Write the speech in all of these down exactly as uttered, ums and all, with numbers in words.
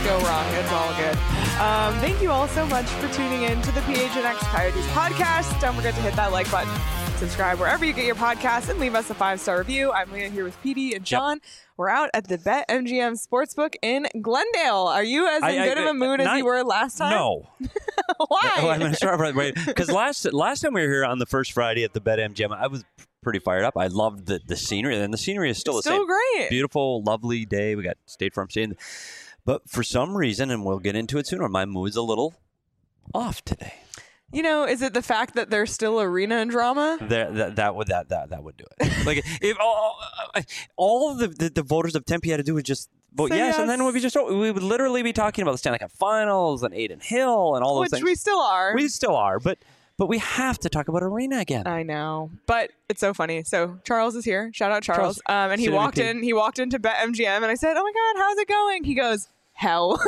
go wrong. It's all good. Um, thank you all so much for tuning in to the P H N X Coyotes podcast. Don't forget to hit that like button, subscribe wherever you get your podcasts, and leave us a five-star review. I'm Leah here with P D and Sean. Yep. We're out at the BetMGM Sportsbook in Glendale. Are you as in I, good I, of a mood not, as you were last time? No. Why? Oh, I'm going to start right because last last time we were here on the first Friday at the BetMGM, I was pretty fired up. I loved the, the scenery, and the scenery is still it's the still same. Great. Beautiful, lovely day. We got State Farm Stadium. But for some reason, and we'll get into it sooner, my mood's a little off today. You know, is it the fact that there's still arena and drama? That that, that would that, that that would do it. Like if all, all the, the the voters of Tempe had to do was just vote yes, yes, and then we'd be just we would literally be talking about the Stanley Cup Finals and Adin Hill and all those Which things. Which we still are. We still are, but but we have to talk about arena again. I know, but it's so funny. So Charles is here. Shout out Charles. Charles um, and he walked in. He walked into BetMGM, and I said, "Oh my God, how's it going?" He goes, hell.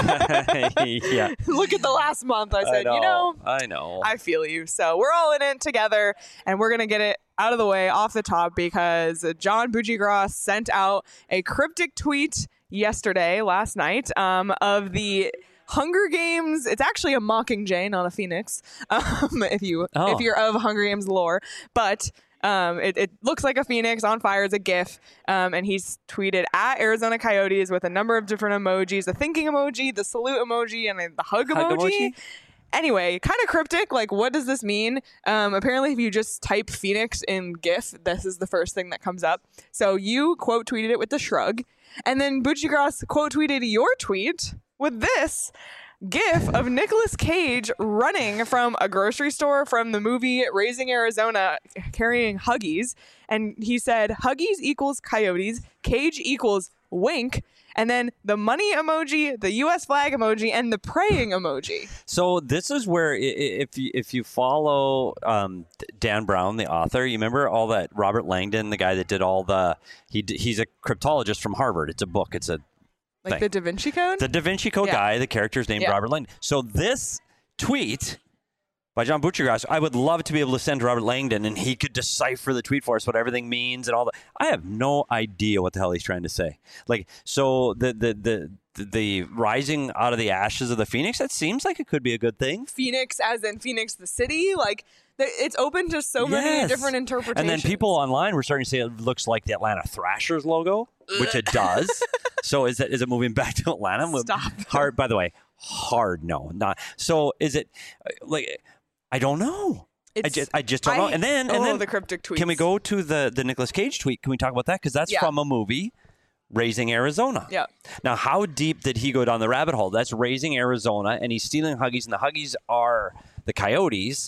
Yeah. Look at the last month. I said, I know, you know, I know. I feel you. So we're all in it together, and we're going to get it out of the way off the top because John Buccigross sent out a cryptic tweet yesterday, last night, um, of the Hunger Games. It's actually a Mockingjay, not a phoenix, um, if, you, oh. if you're of Hunger Games lore. But... Um, it, it looks like a phoenix on fire. It's a GIF. Um, and he's tweeted at Arizona Coyotes with a number of different emojis, the thinking emoji, the salute emoji, and the hug, hug emoji. emoji. Anyway, kind of cryptic. Like, what does this mean? Um, apparently, if you just type Phoenix in GIF, this is the first thing that comes up. So you quote tweeted it with the shrug. And then Buccigross quote tweeted your tweet with this GIF of Nicolas Cage running from a grocery store from the movie Raising Arizona carrying Huggies. And he said, Huggies equals Coyotes, Cage equals wink, and then the money emoji, the U S flag emoji, and the praying emoji. So this is where if you, if you follow um, Dan Brown, the author, you remember all that Robert Langdon, the guy that did all the, he he's a cryptologist from Harvard. It's a book. It's a Like thing. the Da Vinci Code? The Da Vinci Code yeah. guy, the character is named yeah. Robert Langdon. So this tweet by John Buccigross, I would love to be able to send to Robert Langdon and he could decipher the tweet for us, what everything means and all that. I have no idea what the hell he's trying to say. Like, so the the the the, the rising out of the ashes of the Phoenix, that seems like it could be a good thing. Phoenix as in Phoenix the city? Like, it's open to so yes. many different interpretations. And then people online were starting to say it looks like the Atlanta Thrashers logo, which it does. So is it is it moving back to Atlanta? Stop. Hard, by the way, hard no. Not so is it like I don't know. It's, I just I just don't I, know. And then and oh, then the cryptic tweets. Can we go to the the Nicolas Cage tweet? Can we talk about that? Because that's yeah. from a movie, Raising Arizona. Yeah. Now, how deep did he go down the rabbit hole? That's Raising Arizona, and he's stealing Huggies, and the Huggies are the Coyotes,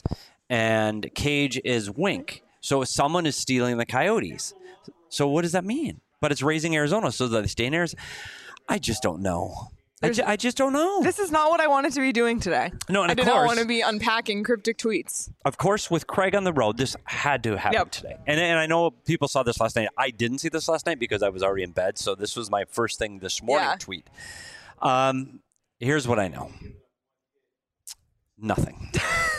and Cage is Wink. So someone is stealing the Coyotes. So what does that mean? But it's Raising Arizona, so that they stay in Arizona. I just don't know. I, ju- I just don't know. This is not what I wanted to be doing today. No, and I of did course, not want to be unpacking cryptic tweets. Of course, with Craig on the road, this had to happen yep. today. And, and I know people saw this last night. I didn't see this last night because I was already in bed. So this was my first thing this morning yeah. tweet. Um, here's what I know. Nothing.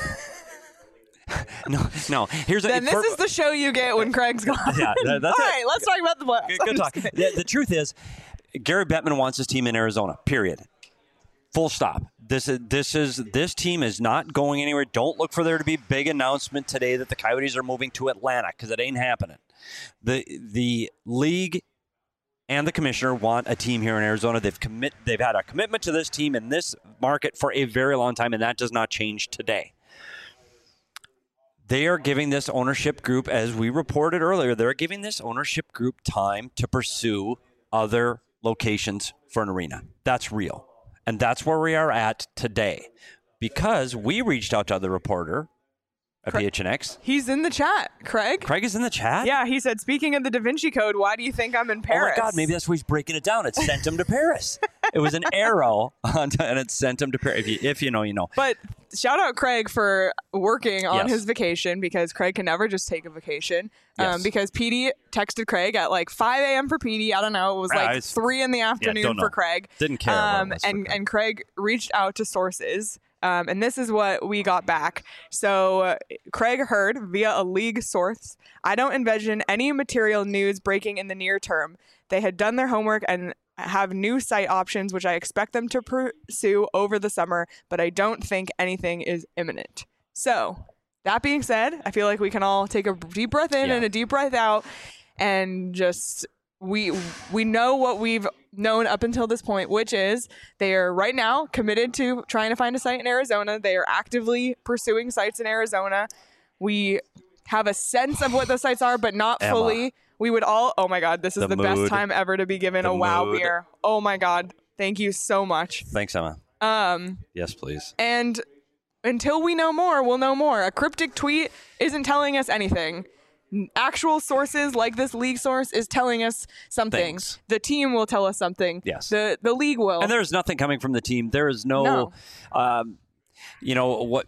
no, no. Here's then a, this for, is the show you get when Craig's gone. Yeah, that, that's All it. right, let's talk about the playoffs. Good, good talk. The, the truth is, Gary Bettman wants his team in Arizona. Period. Full stop. This is this is this team is not going anywhere. Don't look for there to be a big announcement today that the Coyotes are moving to Atlanta because it ain't happening. The the league and the commissioner want a team here in Arizona. They've commit they've had a commitment to this team in this market for a very long time, and that does not change today. They are giving this ownership group, as we reported earlier, they're giving this ownership group time to pursue other locations for an arena. That's real. And that's where we are at today. Because we reached out to other reporter at P H N X. He's in the chat, Craig. Craig is in the chat? Yeah, he said, speaking of the Da Vinci Code, why do you think I'm in Paris? Oh my God, maybe that's why he's breaking it down. It sent him to Paris. It was an arrow, and it sent him to Paris. If you, if you know, you know. But shout out Craig for working on yes. his vacation, because Craig can never just take a vacation. Um, yes. Because P D texted Craig at like five a.m. for P D. I don't know. It was like I was, three in the afternoon yeah, for Craig. Didn't care. Um, and, and Craig reached out to sources. Um, and this is what we got back. So uh, Craig heard via a league source, I don't envision any material news breaking in the near term. They had done their homework and have new site options, which I expect them to pursue over the summer, but I don't think anything is imminent. So that being said, I feel like we can all take a deep breath in Yeah. and a deep breath out and just we we know what we've known up until this point, which is they are right now committed to trying to find a site in Arizona. They are actively pursuing sites in Arizona. We have a sense of what those sites are, but not Emma. fully. We would all, oh my God, this is The the, best mood. time ever to be given The a wow mood. beer. Oh my God. Thank you so much. Thanks, Emma. Um, Yes, please. and until we know more, we'll know more. A cryptic tweet isn't telling us anything. Actual sources like this league source is telling us something. Things. The team will tell us something. Yes. The the league will. And there's nothing coming from the team. There is no, No. Um, you know what?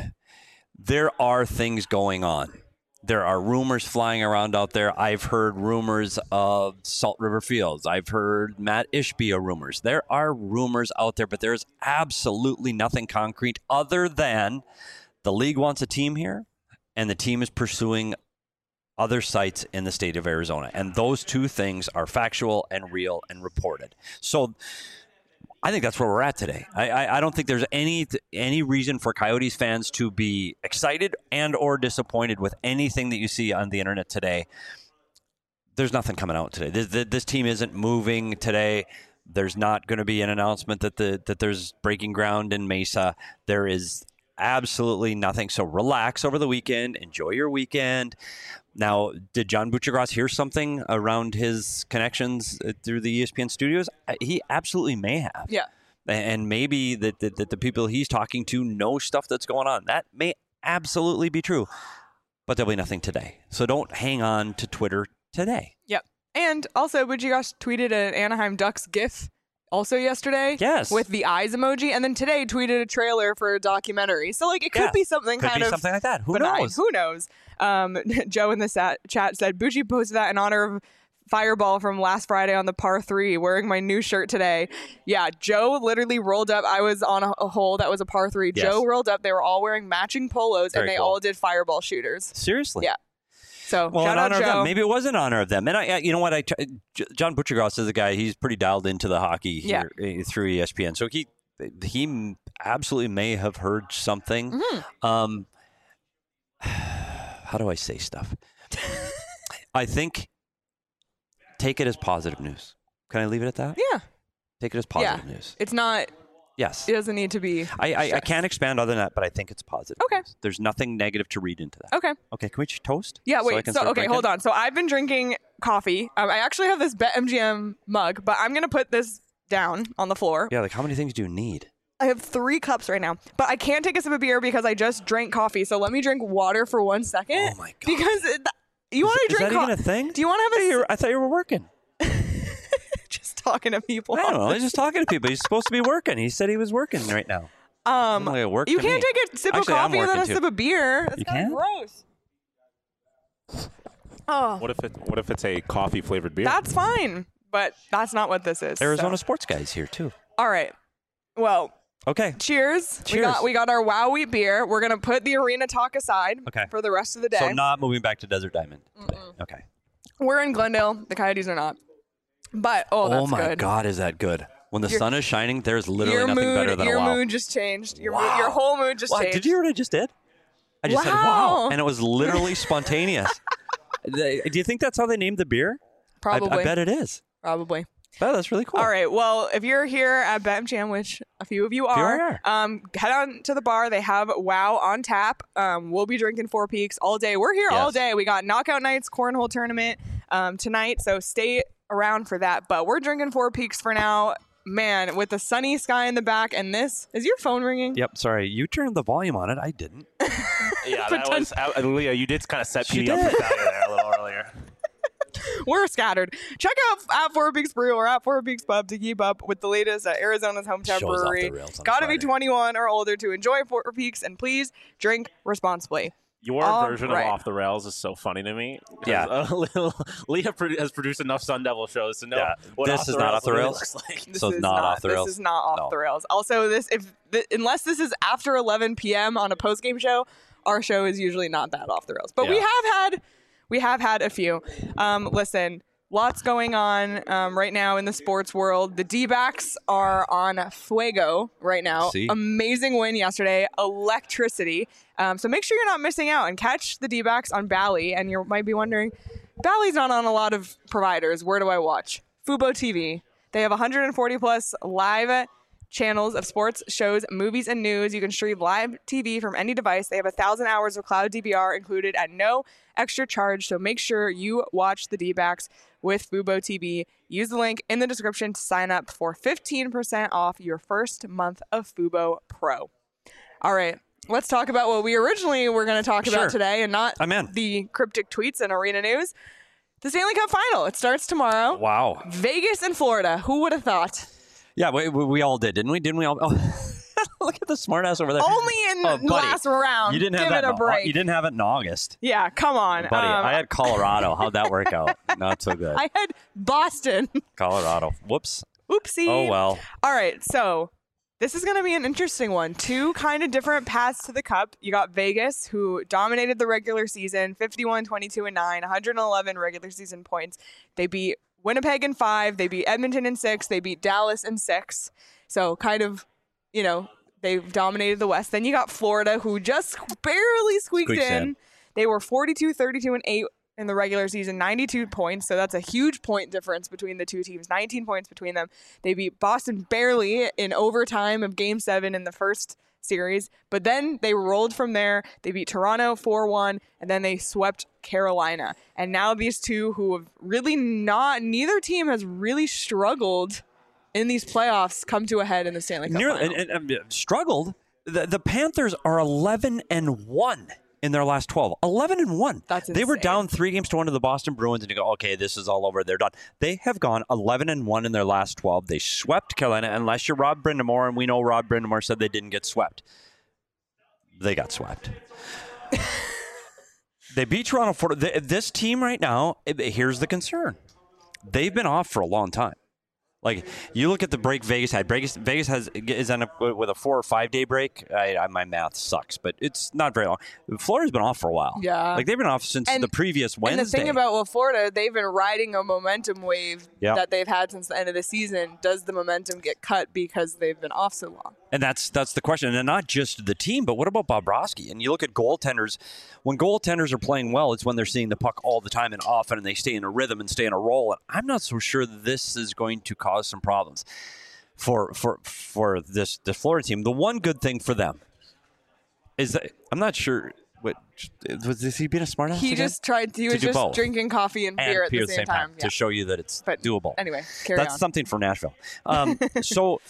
There are things going on. There are rumors flying around out there. I've heard rumors of Salt River Fields. I've heard Matt Ishbia rumors. There are rumors out there, but there's absolutely nothing concrete other than the league wants a team here, and the team is pursuing other sites in the state of Arizona. And those two things are factual and real and reported. So I think that's where we're at today. I, I, I don't think there's any any reason for Coyotes fans to be excited and or disappointed with anything that you see on the internet today. There's nothing coming out today. This, this team isn't moving today. There's not going to be an announcement that the that there's breaking ground in Mesa. There is absolutely nothing. So relax over the weekend. Enjoy your weekend. Now, did John Buccigross hear something around his connections through the E S P N studios? He absolutely may have. Yeah. And maybe that the, the, the people he's talking to know stuff that's going on. That may absolutely be true. But there'll be nothing today. So don't hang on to Twitter today. Yep. And also, Buccigross tweeted an Anaheim Ducks GIF also yesterday. Yes. With the eyes emoji. And then today tweeted a trailer for a documentary. So, like, it could Yeah. be something Could kind be of something like that. Who benign. knows? Who knows? Um, Joe in the sat- chat said, Bucci posted that in honor of Fireball from last Friday on the par three, wearing my new shirt today. Yeah, Joe literally rolled up. I was on a, a hole that was a par three. Yes. Joe rolled up. They were all wearing matching polos, Very and they cool. all did Fireball shooters. Seriously? Yeah. So, Well, shout in out honor of Joe. them. Maybe it was in honor of them. And I, I you know what? I, J- John Buccigross is a guy. He's pretty dialed into the hockey here uh, through E S P N. So he he absolutely may have heard something. Mm-hmm. Um, how do I say stuff? I think take it as positive news. Can I leave it at that? Yeah. Take it as positive news. It's not, Yes. it doesn't need to be. I, I, I stressed. can't expand other than that, but I think it's positive. Okay. news. There's nothing negative to read into that. Okay. Okay, can we just toast? Yeah, So I wait. can So, start okay, drinking? hold on. So I've been drinking coffee. Um, I actually have this BetMGM mug, but I'm going to put this down on the floor. Yeah, like how many things do you need? I have three cups right now, but I can't take a sip of beer because I just drank coffee. So let me drink water for one second. Oh my God. Because it, you want to Is drink that even co- a thing? Do you want to have a Hey, you're- I thought you were working. just talking to people? I don't know. He's just talking to people. He's supposed to be working. He said he was working right now. Um, Doesn't look like work you to can't me. take a sip Actually, of I'm coffee and then a working sip too. of beer. That's You kind of can? gross. Oh, What if it? What if it's a coffee flavored beer? that's fine, but that's not what this is. Arizona so. sports guys here too. All right. Well, Okay. cheers. We Cheers. got we got our Wow Wheat beer. We're gonna put the arena talk aside Okay. for the rest of the day. So not moving back to Desert Diamond today. Okay. We're in Glendale. The Coyotes are not. But oh, that's oh my good. God, is that good? When the Your- sun is shining, there's literally Your nothing mood, better than your a wow. mood just changed. Your Wow. mood, your whole mood just Wow, changed. did you hear what I just did? I just said Wow. wow, and it was literally spontaneous. They- Do you think that's how they named the beer? I- Probably. I, bet it is. Probably. Oh, that's really cool. All right. Well, if you're here at BetMGM, which a few of you few are, are. um, head on to the bar. They have Wow on tap. Um, we'll be drinking Four Peaks all day. We're here all Yes. day. We got Knockout Nights Cornhole Tournament um, tonight, so stay around for that. But we're drinking Four Peaks for now. Man, with the sunny sky in the back, and this is your phone ringing? Yep. Sorry, you turned the volume on it. I didn't. yeah, that was. Uh, Leah, you did kind of set She P D up did. for failure there a little earlier. We're scattered. Check out at Four Peaks Brew or at Four Peaks Pub to keep up with the latest at Arizona's hometown Shows off the brewery. rails on Gotta be Friday. twenty-one or older to enjoy Four Peaks, and please drink responsibly. Your All version right. of Off the Rails is so funny to me. 'Cause, Yeah. uh, little- Leah produ- has produced enough Sun Devil shows to know Yeah. what This off is the not rails Off the really Rails? looks like. This So it's is not off the rails? This is not off No. the rails. Also, this if th- unless this is after eleven p.m. on a post game show, our show is usually not that off the rails. But we Yeah. have had we have had a few. Um, listen, lots going on um, right now in the sports world. The D-backs are on fuego right now. See? Amazing win yesterday. Electricity. Um, so make sure you're not missing out and catch the D-backs on Bally. And you might be wondering, Bally's not on a lot of providers. Where do I watch? Fubo T V. They have one hundred forty plus live channels of sports, shows, movies, and news. You can stream live T V from any device. They have a thousand hours of cloud D V R included at no extra charge. So make sure you watch the D-backs with Fubo T V. Use the link in the description to sign up for fifteen percent off your first month of Fubo Pro. All right, let's talk about what we originally were going to talk Sure. about today and not I'm in. the cryptic tweets and arena news. The Stanley Cup Final. It starts tomorrow. Wow. Vegas and Florida. Who would have thought? Yeah, we, we, we all did, didn't we? Didn't we all? Oh, look at the smartass over there. Only in Oh, the buddy, last round. You didn't have Give that. it a in- break. You didn't have it in August, Yeah, come on. buddy. Um, I had Colorado. How'd that work out? Not so good. I had Boston. Colorado. Whoops. Oopsie. Oh well. All right, so this is going to be an interesting one. Two kind of different paths to the Cup. You got Vegas, who dominated the regular season, fifty-one, twenty-two, and nine, one hundred eleven regular season points. They beat Winnipeg in five. They beat Edmonton in six. They beat Dallas in six. So kind of, you know, they've dominated the West. Then you got Florida, who just barely squeaked Squeaks in. in. They were forty-two, thirty-two, and eight in the regular season, ninety-two points. So that's a huge point difference between the two teams, nineteen points between them. They beat Boston barely in overtime of game seven in the first series, but then they rolled from there. They beat Toronto four one, and then they swept Carolina. And now these two who have really not, neither team has really struggled in these playoffs come to a head in the Stanley Cup Near, Final. and, and, and struggled. The, the Panthers are eleven and one in their last twelve. eleven and one. That's They were insane. down three games to one to the Boston Bruins, and you go, okay, this is all over. They're done. They have gone eleven and one in their last twelve. They swept Carolina, unless you're Rob Brindamore, and we know Rob Brindamore said they didn't get swept. They got swept. They beat Toronto. For this team right now, here's the concern. They've been off for a long time. Like, you look at the break Vegas had. Vegas, Vegas has is on a, with a four or five day break. I, I, my math sucks, but it's not very long. Florida's been off for a while. Yeah. like they've been off since And- the previous Wednesday. And the thing about well, Florida, they've been riding a momentum wave Yeah. that they've had since the end of the season. Does the momentum get cut because they've been off so long? And that's that's the question. And not just the team, but what about Bobrovsky? And you look at goaltenders. When goaltenders are playing well, it's when they're seeing the puck all the time and often, and they stay in a rhythm and stay in a role. And I'm not so sure that this is going to cause some problems for for for this the Florida team. The one good thing for them is that I'm not sure what was is he being a smartass He again? just tried. He To was do just both. drinking coffee and, and beer at beer the same, time. Yeah. to show you that it's But doable. Anyway, carry That's on. something for Nashville. Um, so,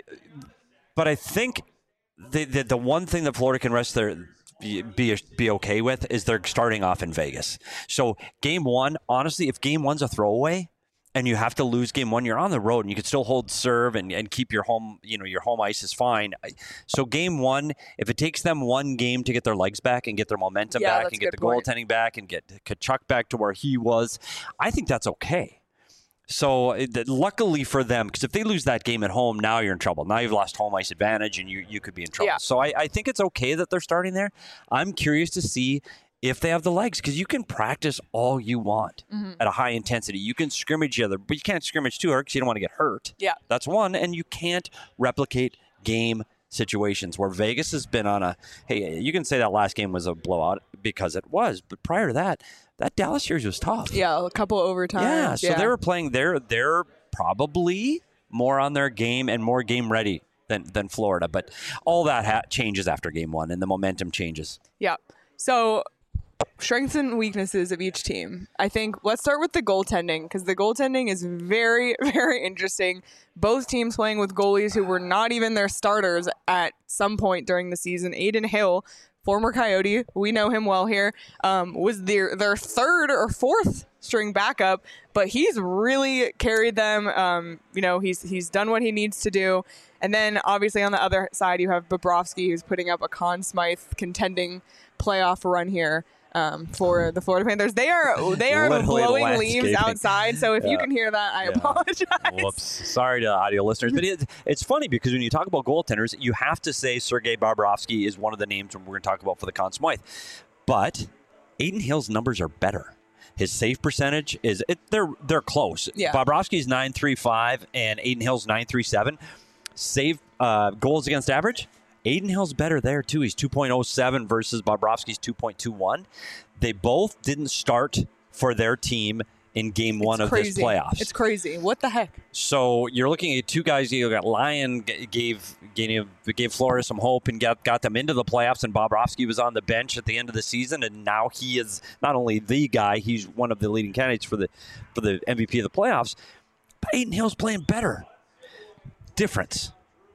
but I think the, the the one thing that Florida can rest their be be okay with is they're starting off in Vegas. So game one, honestly, if game one's a throwaway and you have to lose game one, you're on the road and you can still hold serve and, and keep your home, you know, your home ice is fine. So game one, if it takes them one game to get their legs back and get their momentum Yeah, back that's and a get good the point. goaltending back and get Kachuk back to where he was, I think that's okay. So it, luckily for them, because if they lose that game at home, now you're in trouble. Now you've lost home ice advantage, and you, you could be in trouble. Yeah. So I, I think it's okay that they're starting there. I'm curious to see if they have the legs, because you can practice all you want Mm-hmm. at a high intensity. You can scrimmage each other, but you can't scrimmage too hard because you don't want to get hurt. Yeah. That's one, and you can't replicate game situations where Vegas has been on a, hey, you can say that last game was a blowout because it was, but prior to that, that Dallas series was tough. Yeah, a couple overtimes. Yeah, so they were playing. They're they're probably more on their game and more game ready than than Florida. But all that ha- changes after game one, and the momentum changes. Yeah. So strengths and weaknesses of each team. I think let's start with the goaltending because the goaltending is very, very interesting. Both teams playing with goalies who were not even their starters at some point during the season. Aiden Hill, former Coyote, we know him well here, um, was their their third or fourth string backup, but he's really carried them. Um, you know, he's he's done what he needs to do. And then obviously on the other side, you have Bobrovsky, who's putting up a Conn Smythe contending playoff run here. Um, for the Florida Panthers, they are they are Literally blowing landscaping. leaves outside. So if you Yeah. can hear that, I Yeah. apologize. Whoops. Sorry to audio listeners. But it, it's funny because when you talk about goaltenders, you have to say Sergei Bobrovsky is one of the names we're going to talk about for the Conn Smythe. But Aiden Hill's numbers are better. His save percentage is it, they're they're close. Yeah. Bobrovsky's nine three five and Adin Hill's nine three seven. Save uh, goals against average. Adin Hill's better there too. He's two point oh seven versus Bobrovsky's two point two one. They both didn't start for their team in game one It's of crazy. this playoffs. It's crazy. What the heck? So you're looking at two guys. You got Lyon g- gave gave gave Florida some hope and got got them into the playoffs. And Bobrovsky was on the bench at the end of the season, and now he is not only the guy, he's one of the leading candidates for the for the M V P of the playoffs. But Adin Hill's playing better. Difference.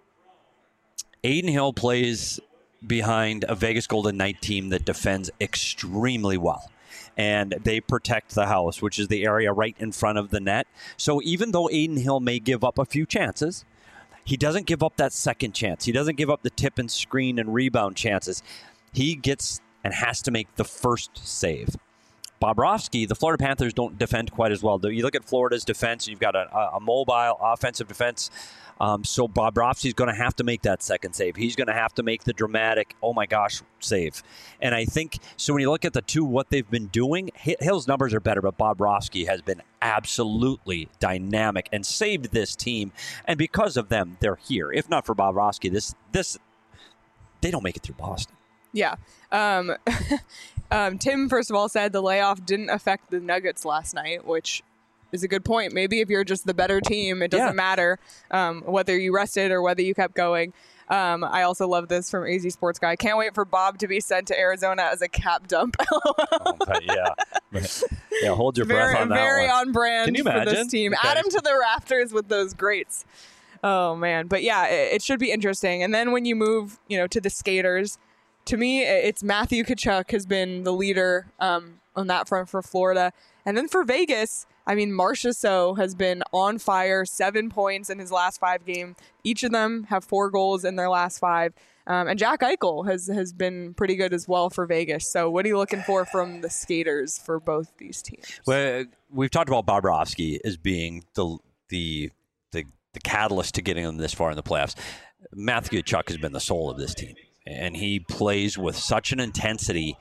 Adin Hill plays behind a Vegas Golden Knight team that defends extremely well. And they protect the house, which is the area right in front of the net. So even though Adin Hill may give up a few chances, he doesn't give up that second chance. He doesn't give up the tip and screen and rebound chances. He gets and has to make the first save. Bobrovsky, the Florida Panthers don't defend quite as well. You look at Florida's defense, you've got a, a mobile offensive defense. Um, so Bobrovsky's going to have to make that second save. He's going to have to make the dramatic, oh my gosh, save. And I think, so when you look at the two, what they've been doing, Hill's numbers are better, but Bobrovsky has been absolutely dynamic and saved this team. And because of them, they're here. If not for Bobrovsky, this, this, they don't make it through Boston. Yeah. Um, um, Tim, first of all, said the layoff didn't affect the Nuggets last night, which is a good point. Maybe if you're just the better team, it doesn't Yeah. matter um, whether you rested or whether you kept going. Um, I also love this from A Z Sports Guy. Can't wait for Bob to be sent to Arizona as a cap dump. Oh, but yeah. Yeah, hold your very, breath on that very one. on brand Can you for this imagine? team. Okay. Add him to the rafters with those greats. Oh man, but yeah, it, it should be interesting. And then when you move, you know, to the skaters, to me, it's Matthew Tkachuk has been the leader um, on that front for Florida, and then for Vegas, I mean, Marchessault has been on fire, seven points in his last five games. Each of them have four goals in their last five. Um, and Jack Eichel has, has been pretty good as well for Vegas. So what are you looking for from the skaters for both these teams? Well, we've talked about Bobrovsky as being the the the, the catalyst to getting them this far in the playoffs. Matthew Tkachuk has been the soul of this team, and he plays with such an intensity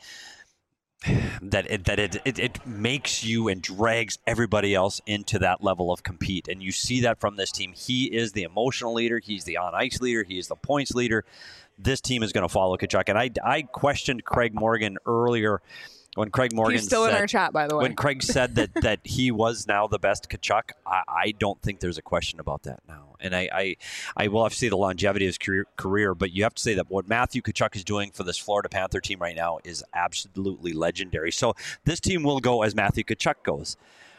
that it, that it, it it makes you and drags everybody else into that level of compete. And you see that from this team. He is the emotional leader. He's the on-ice leader. He is the points leader. This team is going to follow Tkachuk. And I, I questioned Craig Morgan earlier when Craig Morgan He's still said, in our chat, by the way. when Craig said that, that he was now the best Tkachuk, I, I don't think there's a question about that now. And I, I, I will have to say the longevity of his career, career, but you have to say that what Matthew Tkachuk is doing for this Florida Panther team right now is absolutely legendary. So this team will go as Matthew Tkachuk goes.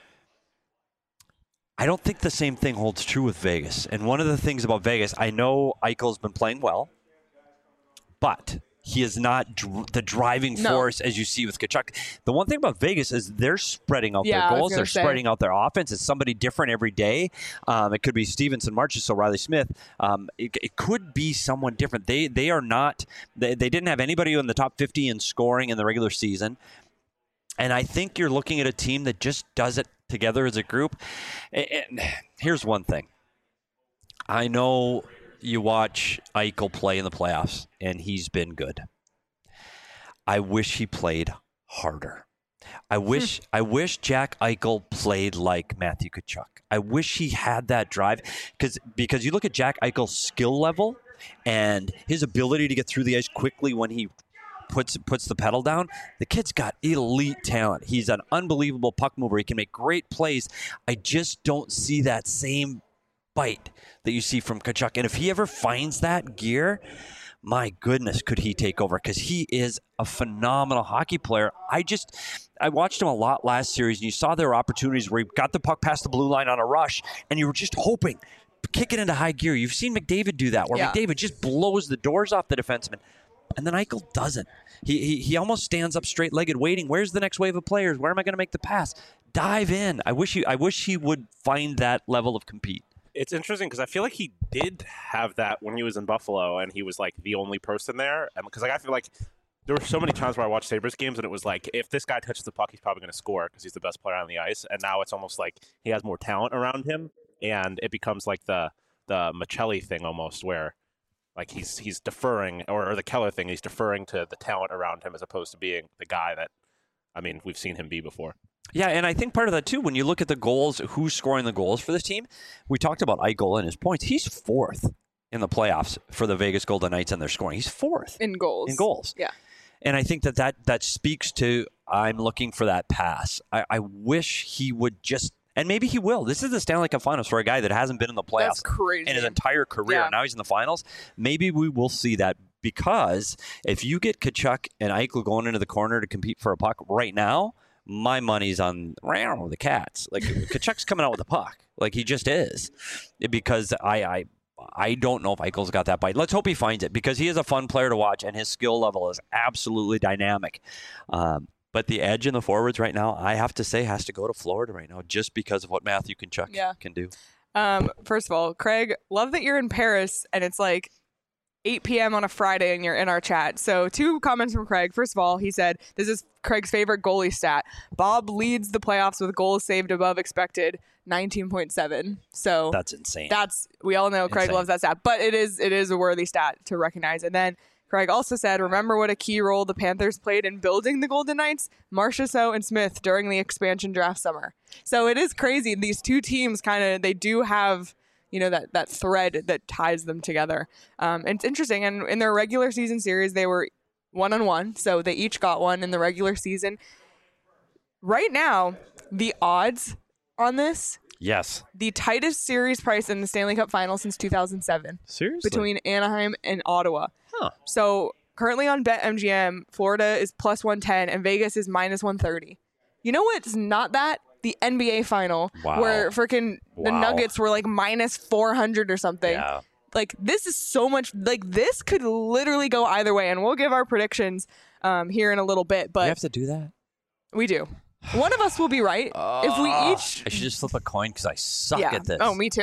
I don't think the same thing holds true with Vegas. And one of the things about Vegas, I know Eichel's been playing well, but he is not dr- the driving No. force as you see with Tkachuk. The one thing about Vegas is they're spreading out Yeah, I their was goals. gonna They're say. spreading out their offense. It's somebody different every day. Um, it could be Stevenson, Marchessault, Riley Smith. Um, it, it could be someone different. They they are not. They, they didn't have anybody in the top fifty in scoring in the regular season. And I think you're looking at a team that just does it together as a group. And, and here's one thing. I know you watch Eichel play in the playoffs, and he's been good. I wish he played harder. I wish I wish Jack Eichel played like Matthew Tkachuk. I wish he had that drive because because you look at Jack Eichel's skill level and his ability to get through the ice quickly when he puts puts the pedal down. The kid's got elite talent. He's an unbelievable puck mover. He can make great plays. I just don't see that same bite that you see from Tkachuk. And if he ever finds that gear, my goodness, could he take over? Because he is a phenomenal hockey player. I just, I watched him a lot last series, and you saw there were opportunities where he got the puck past the blue line on a rush, and you were just hoping, kick it into high gear. You've seen McDavid do that, where Yeah. McDavid just blows the doors off the defenseman. And then Eichel doesn't. He, he he almost stands up straight-legged, waiting. Where's the next wave of players? Where am I going to make the pass? Dive in. I wish he I wish he would find that level of compete. It's interesting because I feel like he did have that when he was in Buffalo and he was like the only person there. Because like I feel like there were so many times where I watched Sabres games and it was like, if this guy touches the puck, he's probably going to score because he's the best player on the ice. And now it's almost like he has more talent around him, and it becomes like the the Michelli thing almost, where like he's he's deferring, or, or the Keller thing, he's deferring to the talent around him as opposed to being the guy that, I mean, we've seen him be before. Yeah, and I think part of that too, when you look at the goals, who's scoring the goals for this team, we talked about Eichel and his points. He's fourth in the playoffs for the Vegas Golden Knights and their scoring. He's fourth in goals. In goals. Yeah. And I think that that, that speaks to I'm looking for that pass. I, I wish he would just, and maybe he will. This is the Stanley Cup Finals for a guy that hasn't been in the playoffs That's crazy. in his entire career. Yeah. Now he's in the finals. Maybe we will see that, because if you get Tkachuk and Eichel going into the corner to compete for a puck right now, my money's on round the Cats. Like Tkachuk's coming out with a puck, like he just is, because I, I I don't know if Eichel's got that bite. Let's hope he finds it, because he is a fun player to watch and his skill level is absolutely dynamic. Um, but the edge in the forwards right now, I have to say, has to go to Florida right now, just because of what Matthew Tkachuk Yeah. can do. Um, first of all, Craig, love that you're in Paris and it's like eight p.m. on a Friday and you're in our chat. So two comments from Craig. First of all, he said, this is Craig's favorite goalie stat. Bob leads the playoffs with goals saved above expected, nineteen point seven. So That's insane. that's, we all know Craig Insane. loves that stat, but it is, it is a worthy stat to recognize. And then Craig also said, remember what a key role the Panthers played in building the Golden Knights? Marchessault and Smith during the expansion draft summer. So it is crazy. These two teams kind of, they do have, you know, that, that thread that ties them together. Um, and it's interesting. And in their regular season series, they were one on one. So they each got one in the regular season. Right now, the odds on this, yes. the tightest series price in the Stanley Cup final since two thousand seven Seriously? between Anaheim and Ottawa. Huh. So currently on BetMGM, Florida is plus one ten and Vegas is minus one thirty. You know what's not that? The N B A final, Wow. where freaking the Wow. Nuggets were like minus four hundred or something. Yeah. Like, this is so much, like, this could literally go either way. And we'll give our predictions um, here in a little bit, You but have to do that? we do. One of us will be right. if we each. I should just flip a coin because I suck yeah. at this. Oh, me too.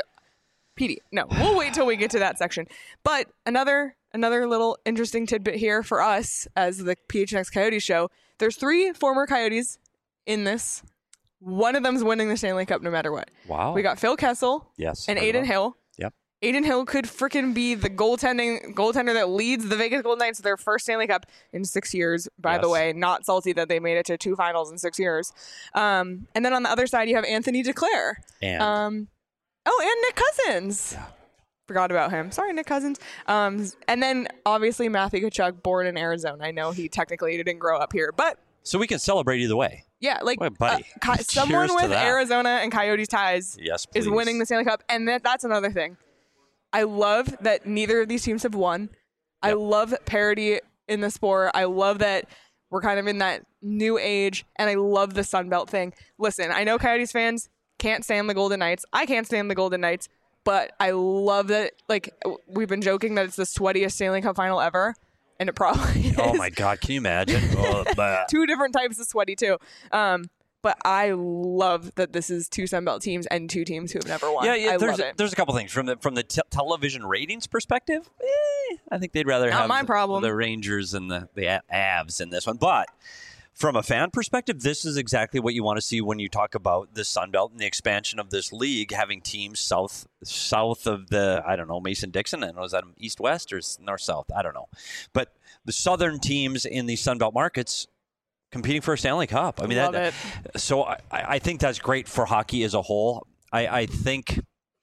P D. No, we'll wait till we get to that section. But another another little interesting tidbit here for us as the P H N X Coyotes show. There's three former Coyotes in this. One of them's winning the Stanley Cup no matter what. Wow. We got Phil Kessel yes. and right Aiden on. Hill. Yep. Aiden Hill could freaking be the goaltending goaltender that leads the Vegas Golden Knights to their first Stanley Cup in six years. By the Yes. way, not salty that they made it to two finals in six years. Um, and then on the other side, you have Anthony Duclair. And Um, oh, and Nick Cousins. Yeah. Forgot about him. Sorry, Nick Cousins. Um, and then obviously Matthew Tkachuk, born in Arizona. I know he technically didn't grow up here, but so we can celebrate either way. yeah, like Wait, buddy. uh, Ki- someone Cheers to with that. Arizona and Coyotes ties Yes, please. is winning the Stanley Cup, and that, that's another thing. I love that neither of these teams have won. I Yep. love parity in the sport. I love that we're kind of in that new age, and I love the Sun Belt thing. Listen, I know Coyotes fans can't stand the Golden Knights. I can't stand the Golden Knights, but I love that. Like, we've been joking that it's the sweatiest Stanley Cup final ever, and it probably is. Oh my God! Can you imagine? Oh, bah. Two different types of sweaty too. Um, but I love that this is two Sunbelt teams and two teams who have never won. Yeah, yeah. I There's love a, it. there's a couple things from the from the te- television ratings perspective. Eh, I think they'd rather Not have my problem. the Rangers and the the A- Avs in this one, but. From a fan perspective, this is exactly what you want to see when you talk about the Sun Belt and the expansion of this league, having teams south south of the, I don't know, Mason-Dixon, and was that east-west or north-south? I don't know. But the southern teams in the Sun Belt markets competing for a Stanley Cup. I mean, Love that, it. So I, I think that's great for hockey as a whole. I, I think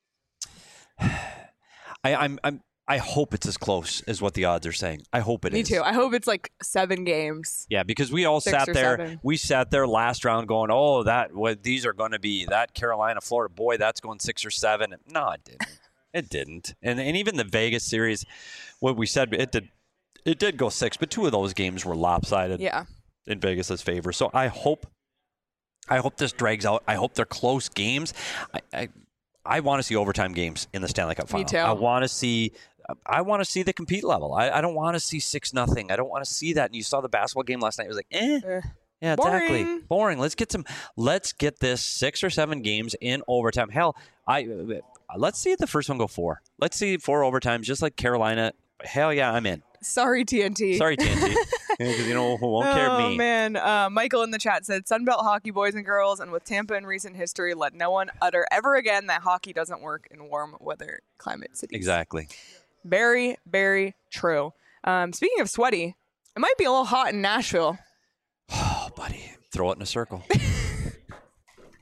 I, I'm, I'm I hope it's as close as what the odds are saying. I hope it Me is. too. I hope it's like seven games. Yeah, because we all Six sat or there. seven. We sat there last round going, "Oh, that what these are going to be that Carolina, Florida, boy, that's going six or seven." No, it didn't. It didn't. And and even the Vegas series, what we said, it did. It did go six, but two of those games were lopsided Yeah. in Vegas's favor. So I hope, I hope this drags out. I hope they're close games. I I, I want to see overtime games in the Stanley Cup final. Me too. I want to see. I want to see the compete level. I, I don't want to see six nothing. I don't want to see that. And you saw the basketball game last night. It was like, eh. Eh. Yeah, exactly. Boring. Boring. Let's get some. Let's get this six or seven games in overtime. Hell, I uh, let's see the first one go four. Let's see four overtimes, just like Carolina. Hell yeah, I'm in. Sorry, T N T. Sorry, T N T, because you know who won't care Oh me. man, uh, Michael in the chat said Sunbelt hockey boys and girls, and with Tampa in recent history, let no one utter ever again that hockey doesn't work in warm weather climate cities. Exactly. Very, very true. Um, speaking of sweaty, it might be a little hot in Nashville. Oh, buddy, throw it in a circle.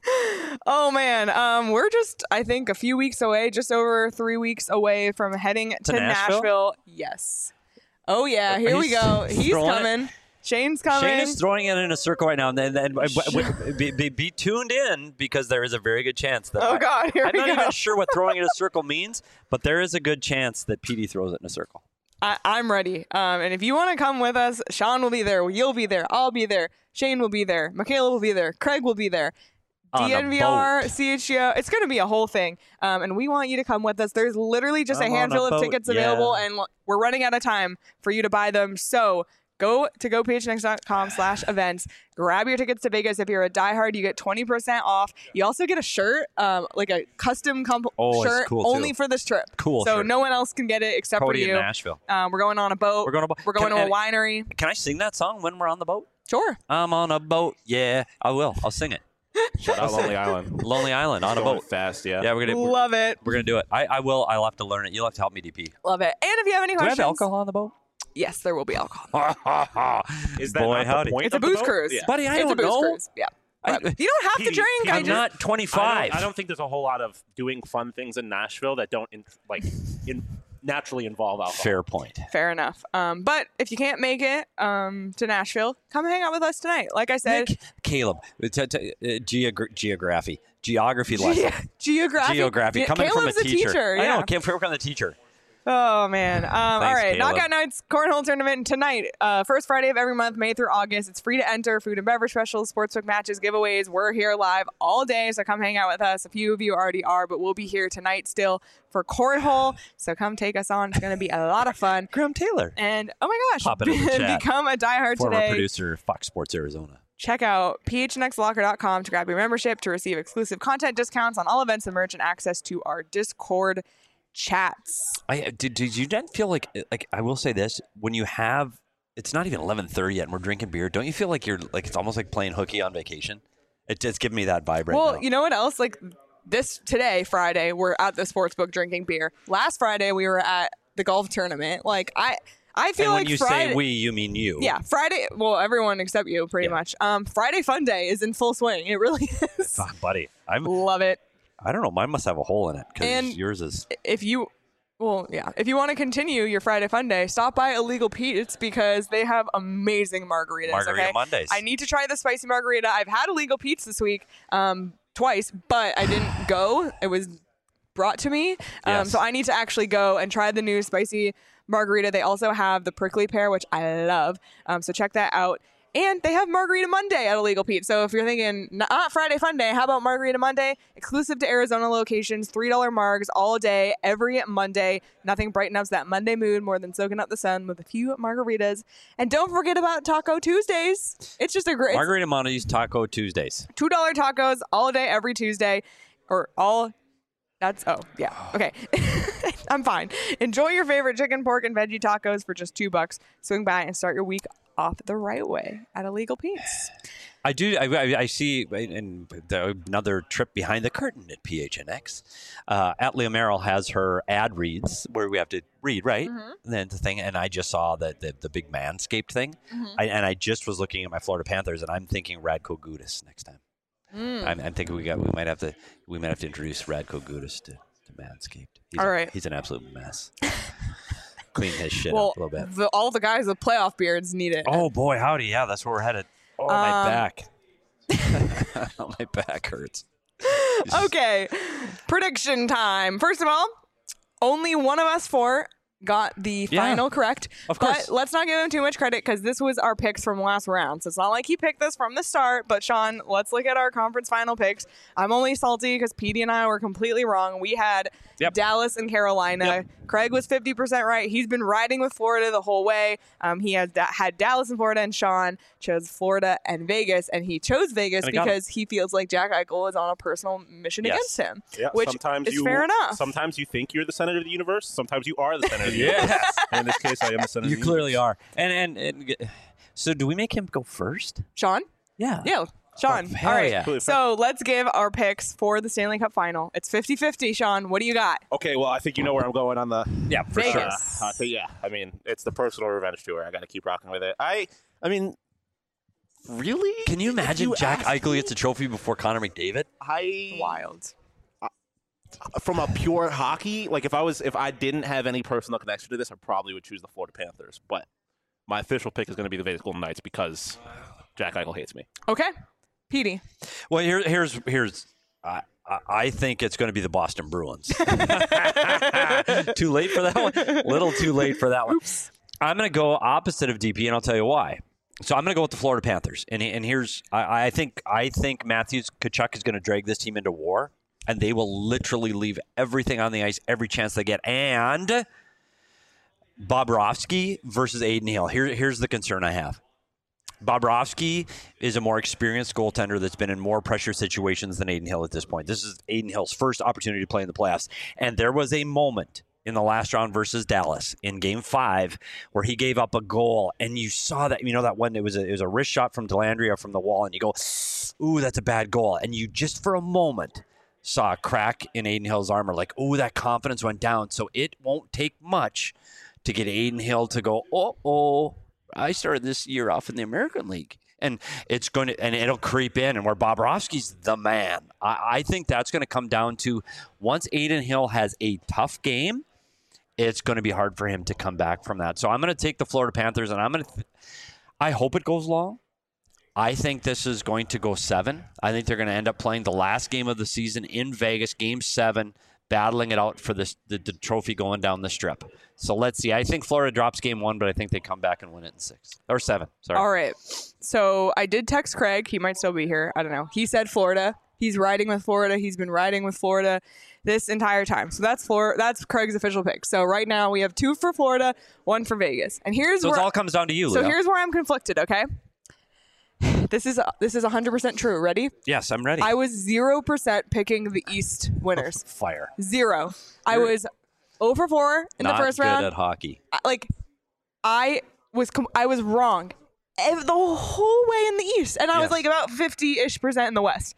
Oh man, um, we're just I think a few weeks away, just over three weeks away from heading to, To Nashville? Nashville. Yes. Oh yeah, Are here you we go. He's throwing it? coming. Shane's coming. Shane is throwing it in a circle right now, and then, then be, be, be tuned in because there is a very good chance that oh I, God, here I'm we not go. even sure what throwing it in a circle means, but there is a good chance that Petey throws it in a circle. I, I'm ready. Um, and if you want to come with us, Sean will be there. You'll be there. I'll be there. Shane will be there. Michaela will be there. Craig will be there. On a D N V R, boat. C H G O. It's going to be a whole thing. Um, and we want you to come with us. There's literally just I'm a on a handful of boat, tickets yeah. available, and l- we're running out of time for you to buy them. So go to go p h n x dot com slash events. Grab your tickets to Vegas. If you're a diehard, you get twenty percent off. You also get a shirt, um, like a custom comp- Oh, it's shirt cool, only too. for this trip. Cool So shirt. no one else can get it except Cody for you. in Nashville. Um, we're going on a boat. We're going to. We're going can, to a and- winery. Can I sing that song when we're on the boat? Sure. I'm on a boat. Yeah, I will. I'll sing it. Shout out Lonely Island. Lonely Island on a Going boat. fast, yeah. Yeah, we're gonna we're, Love it. we're gonna do it. I, I will. I'll have to learn it. You'll have to help me, D P. Love it. And if you have any Do we questions, have alcohol on the boat? yes, there will be alcohol. Is that Boy, not howdy. the point It's a of the booze boat? cruise. Yeah. Buddy, I it's don't a booze know. cruise. Yeah. I- But you don't have to Petey, drink. Petey, I I'm just, not I twenty-five. don't, I don't think there's a whole lot of doing fun things in Nashville that don't in, like in, naturally involve alcohol. Fair point. Fair enough. Um, but if you can't make it um, to Nashville, come hang out with us tonight. Like I said, Nick, Caleb, t- t- uh, geogra- geography, geography lesson. Ge- geography. Geography, Yeah, coming Caleb's from a a teacher. teacher, I yeah. know, came from on the teacher. Oh man! Um, all right, Caleb. Knockout Nights Cornhole Tournament tonight. Uh, first Friday of every month, May through August. It's free to enter. Food and beverage specials, sportsbook matches, giveaways. We're here live all day, so come hang out with us. A few of you already are, but we'll be here tonight still for cornhole. So come take us on. It's going to be a lot of fun. Graham Taylor, And oh my gosh, Pop it in the chat. become a diehard former today. producer, Fox Sports Arizona. Check out p h n x locker dot com to grab your membership to receive exclusive content discounts on all events and merch and access to our Discord chats. I did. Did you not feel like like I will say this when you have it's not even eleven thirty yet and we're drinking beer? Don't you feel like you're like it's almost like playing hooky on vacation? It just giving me that vibe right Well, now. you know what else? Like this today, Friday, we're at the sports book drinking beer. Last Friday, we were at the golf tournament. Like I, I feel and like when you Friday. say we, you mean you. yeah, Friday. Well, everyone except you, pretty Yeah. much. Um, Friday Fun Day is in full swing. It really is. Fuck, buddy. I'm. Love it. I don't know. Mine must have a hole in it And- because yours is. If you, well, yeah, if you want to continue your Friday Fun Day, stop by Illegal Pete's because they have amazing margaritas. Margarita okay? Mondays. I need to try the spicy margarita. I've had Illegal Pete's this week, um, twice, but I didn't go. It was brought to me, um, Yes. so I need to actually go and try the new spicy margarita. They also have the prickly pear, which I love. Um, so check that out. And they have Margarita Monday at Illegal Pete. So if you're thinking, not Friday Fun Day, how about Margarita Monday? Exclusive to Arizona locations, three dollar margs all day, every Monday. Nothing brightens up that Monday mood more than soaking up the sun with a few margaritas. And don't forget about Taco Tuesdays. It's just a great Margarita Mondays, Taco Tuesdays. two dollar tacos all day, every Tuesday. Or all... That's, oh, yeah. Okay. I'm fine. Enjoy your favorite chicken, pork, and veggie tacos for just two bucks. Swing by and start your week off the right way at Illegal Pete's. I do. I, I, I see in the, another trip behind the curtain at P H N X. Uh, Atlia Merrill has her ad reads where we have to read, right? Mm-hmm. And then the thing, and I just saw the the, the big Manscaped thing, Mm-hmm. I, and I just was looking at my Florida Panthers, and I'm thinking Radko Gudas next time. Mm. I'm, I'm thinking we got we might have to we might have to introduce Radko Gudas to, to Manscaped. He's All a- right. he's an absolute mess. Clean his shit Well, up a little bit. the, all the guys with playoff beards need it. Oh boy, howdy! Yeah, that's where we're headed. Oh, my Um, back. My back hurts. Okay. Prediction time. First of all, only one of us four got the Yeah. final correct. Of course. But let's not give him too much credit because this was our picks from last round. So it's not like he picked this from the start. But Sean, let's look at our conference final picks. I'm only salty because Petey and I were completely wrong. We had Yep. Dallas and Carolina. Yep. Craig was fifty percent right. He's been riding with Florida the whole way. Um, he has da- had Dallas and Florida, and Sean chose Florida and Vegas. And he chose Vegas And I got because he feels like Jack Eichel is on a personal mission Yes. against him. Yeah, Which sometimes is you, fair enough. Sometimes you think you're the center of the universe. Sometimes you are the center of the Yes. universe. And in this case, I am the center You of the clearly universe. are. And, and and so do we make him go first? Sean? Yeah. Yeah, Sean. Oh, hell All right. yeah. Completely fair. So let's give our picks for the Stanley Cup final. It's fifty-fifty, Sean. What do you got? Okay, well, I think you know where I'm going on the Yeah, for Vegas. sure. Uh, I think, yeah, I mean, it's the personal revenge tour. I got to keep rocking with it. I, I mean, Really? Can you imagine you Jack ask Eichel me? gets a trophy before Connor McDavid? I Wild. from a pure hockey, like if I was if I didn't have any personal connection to this, I probably would choose the Florida Panthers. But my official pick is going to be the Vegas Golden Knights because Jack Eichel hates me. Okay. Petey. Well, here, here's here's. Uh, I- I think it's going to be the Boston Bruins. Too late for that one. Little too late for that one. Oops. I'm going to go opposite of D P, and I'll tell you why. So I'm going to go with the Florida Panthers, and and here's I, I think I think Matthews Tkachuk is going to drag this team into war, and they will literally leave everything on the ice every chance they get. And Bobrovsky versus Aiden Hill. Here, here's the concern I have. Bobrovsky is a more experienced goaltender that's been in more pressure situations than Aiden Hill at this point. This is Aiden Hill's first opportunity to play in the playoffs. And there was a moment in the last round versus Dallas in game five where he gave up a goal. And you saw that, you know, that one, it was a, it was a wrist shot from Dellandrea from the wall. And you go, ooh, that's a bad goal. And you just for a moment saw a crack in Aiden Hill's armor. Like, ooh, that confidence went down. So it won't take much to get Aiden Hill to go, oh, oh. I started this year off in the American League, and it's going to, and it'll creep in. And where Bobrovsky's the man, I, I think that's going to come down to once Aiden Hill has a tough game, it's going to be hard for him to come back from that. So I'm going to take the Florida Panthers, and I'm going to. Th- I hope it goes long. I think this is going to go seven. I think they're going to end up playing the last game of the season in Vegas, Game Seven, battling it out for this the, the trophy going down the strip. So let's see. I think Florida drops game one, but I think they come back and win it in six or seven. Sorry. All right. So I did text Craig. He might still be here. I don't know. He said Florida. He's riding with Florida. He's been riding with Florida this entire time. So that's Florida. That's Craig's official pick. So right now we have two for Florida, one for Vegas. And here's So where it all comes down to you, So Leo. here's where I'm conflicted. Okay. This is this is one hundred percent true. Ready? Yes, I'm ready. I was zero percent picking the East winners. Fire. Zero. I You're was zero for four in Not the first good round. at hockey. I- like I was com- I was wrong ev- the whole way in the East, and I was Yes. like about fifty-ish percent in the West.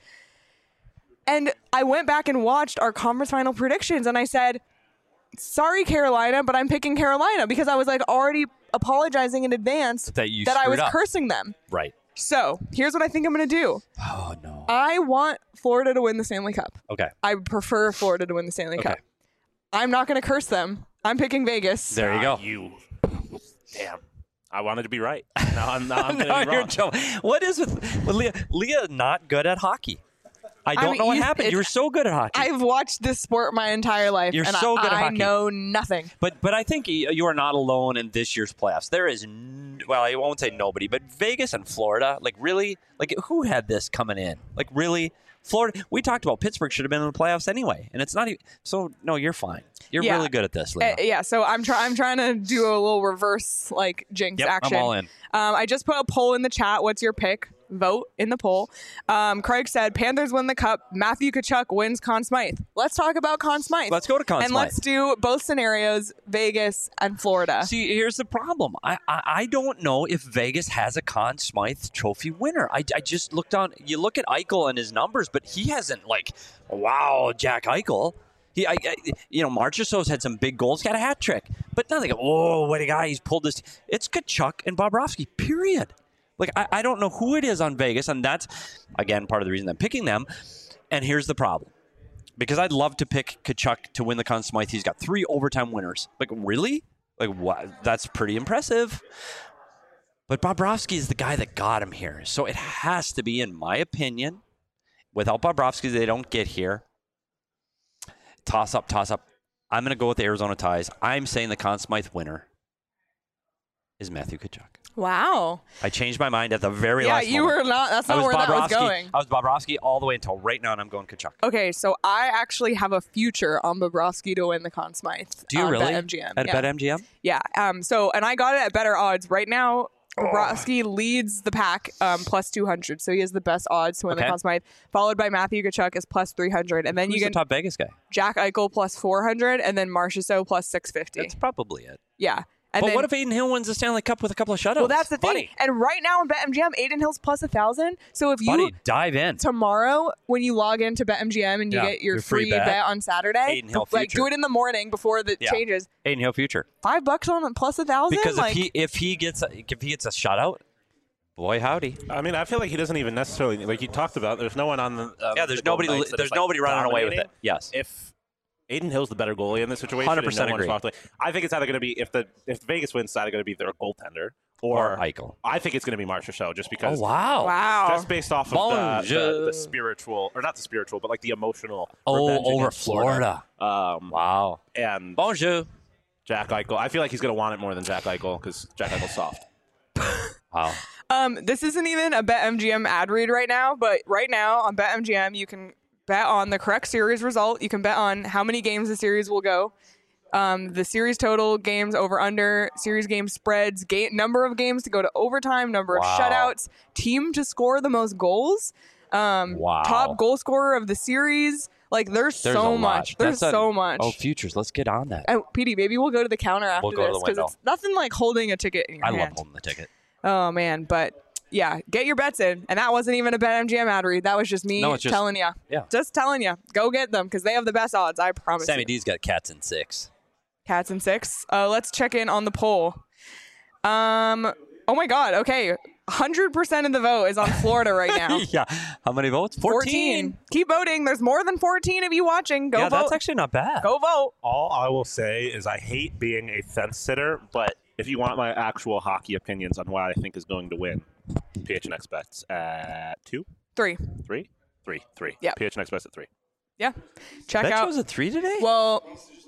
And I went back and watched our conference final predictions, and I said, "Sorry, Carolina, but I'm picking Carolina," because I was like already apologizing in advance That you that I screwed was up. cursing them. Right. So here's what I think I'm going to do. Oh, no. I want Florida to win the Stanley Cup. Okay. I prefer Florida to win the Stanley Okay. Cup. I'm not going to curse them. I'm picking Vegas. There you go. Ah, you. Damn. I wanted to be right. Now I'm, now I'm going No, to be you're wrong. joking. What is with, with Leah? Leah not good at hockey. I don't mean, know what you- happened. it- You were so good at hockey. I've watched this sport my entire life, You're and so I, good at I hockey. know nothing. But but I think y- you are not alone in this year's playoffs. There is, n- well, I won't say nobody, but Vegas and Florida, like really, like who had this coming in? Like really, Florida. We talked about Pittsburgh should have been in the playoffs anyway, and it's not even. So no, you're fine. You're Yeah. really good at this, Leo. Uh, yeah, so I'm trying. I'm trying to do a little reverse like jinx Yep, I'm action. all in. Um, I just put a poll in the chat. What's your pick? Vote in the poll. Um, Craig said Panthers win the cup. Matthew Tkachuk wins Conn Smythe. Let's talk about Conn Smythe. Let's go to Conn and Smythe. let's do both scenarios: Vegas and Florida. See, here's the problem. I, I I don't know if Vegas has a Conn Smythe Trophy winner. I, I just looked on. You look at Eichel and his numbers, but he hasn't like, wow, Jack Eichel. He, I, I, you know, Marchessault's had some big goals, got a hat trick, but nothing. Oh, what a guy! He's pulled this. It's Tkachuk and Bobrovsky. Period. Like I, I don't know who it is on Vegas, and that's again part of the reason I'm picking them. And here's the problem. Because I'd love to pick Tkachuk to win the Conn Smythe. He's got three overtime winners. Like, really? Like, what? That's pretty impressive. But Bobrovsky is the guy that got him here. So it has to be, in my opinion, without Bobrovsky, they don't get here. Toss up, toss up. I'm going to go with the Arizona Ties. I'm saying the Conn Smythe winner is Matthew Tkachuk. Wow. I changed my mind at the very Yeah, last you moment. were not. That's I not was where that was Bobrovsky. going. I was Bobrovsky all the way until right now, and I'm going Tkachuk. Okay, so I actually have a future on Bobrovsky to win the Conn Smythe. Do you on really? BetMGM. At yeah. BetMGM? Yeah. Um. So, and I got it at better odds. Right now, Bobrovsky leads the pack, um, plus two hundred. So he has the best odds to win Okay. the Conn Smythe. Followed by Matthew Tkachuk is plus three hundred, and then Who's you the get top Vegas guy? Jack Eichel plus four hundred, and then Marchessault plus six fifty. That's probably it. Yeah. And but then, what if Aiden Hill wins the Stanley Cup with a couple of shutouts? Well, that's the thing. Buddy, And right now in BetMGM, Aiden Hill's plus a thousand. So if you buddy, dive in. tomorrow when you log into BetMGM and you Yeah, get your your free free bet. bet on Saturday, Aiden Hill like future. do it in the morning before the Yeah. changes. Aiden Hill future. Five bucks on plus a thousand. Because like, if he if he gets a, if he gets a shutout, Boy, howdy. I mean, I feel like he doesn't even necessarily like you talked about. There's no one on the uh, Yeah, there's the Golden nobody. Knights that There's is, like, nobody running away with dominating. it. Yes. If Aiden Hill's the better goalie in this situation, one hundred percent and no one's agree. walked away, I think it's either going to be if the if Vegas wins, it's either going to be their goaltender or, Or Eichel. I think it's going to be Marchessault just because. Oh wow. Wow. Just based off of the, Bonjour. the, the spiritual, or not the spiritual, but like the emotional. Oh, revenge over against Florida. Florida. Um, Wow. and Bonjour. Jack Eichel. I feel like he's going to want it more than Jack Eichel because Jack Eichel's soft. Wow. Um, this isn't even a BetMGM ad read right now, but right now on BetMGM, you can bet on the correct series result. You can bet on how many games the series will go, um, the series total, games over under, series game spreads, game, number of games to go to overtime, number Wow. of shutouts, team to score the most goals, um, Wow. top goal scorer of the series. Like, there's, There's so a lot. much. There's That's a- so much. Oh, futures. Let's get on that. Oh, P D, maybe we'll go to the counter after We'll go to this the because window. it's nothing like holding a ticket in your I hand. love holding the ticket. Oh man, but yeah, get your bets in, and that wasn't even a BetMGM ad read. That was just me No, it's just- telling you. yeah. just telling you, go get them because they have the best odds. I promise. Sammy you. D's got cats in six. Cats and six. Uh, let's check in on the poll. Um. Oh my God. Okay, one hundred percent of the vote is on Florida right now. Yeah. How many votes? fourteen. Keep voting. There's more than fourteen of you watching. Go yeah, vote. that's actually not bad. Go vote. All I will say is I hate being a fence sitter, but if you want my actual hockey opinions on what I think is going to win, P H N X bets at two, Three. three, three, three. Yep. P H N X bets at three. Yeah. Check Bet out. was a three today? Well.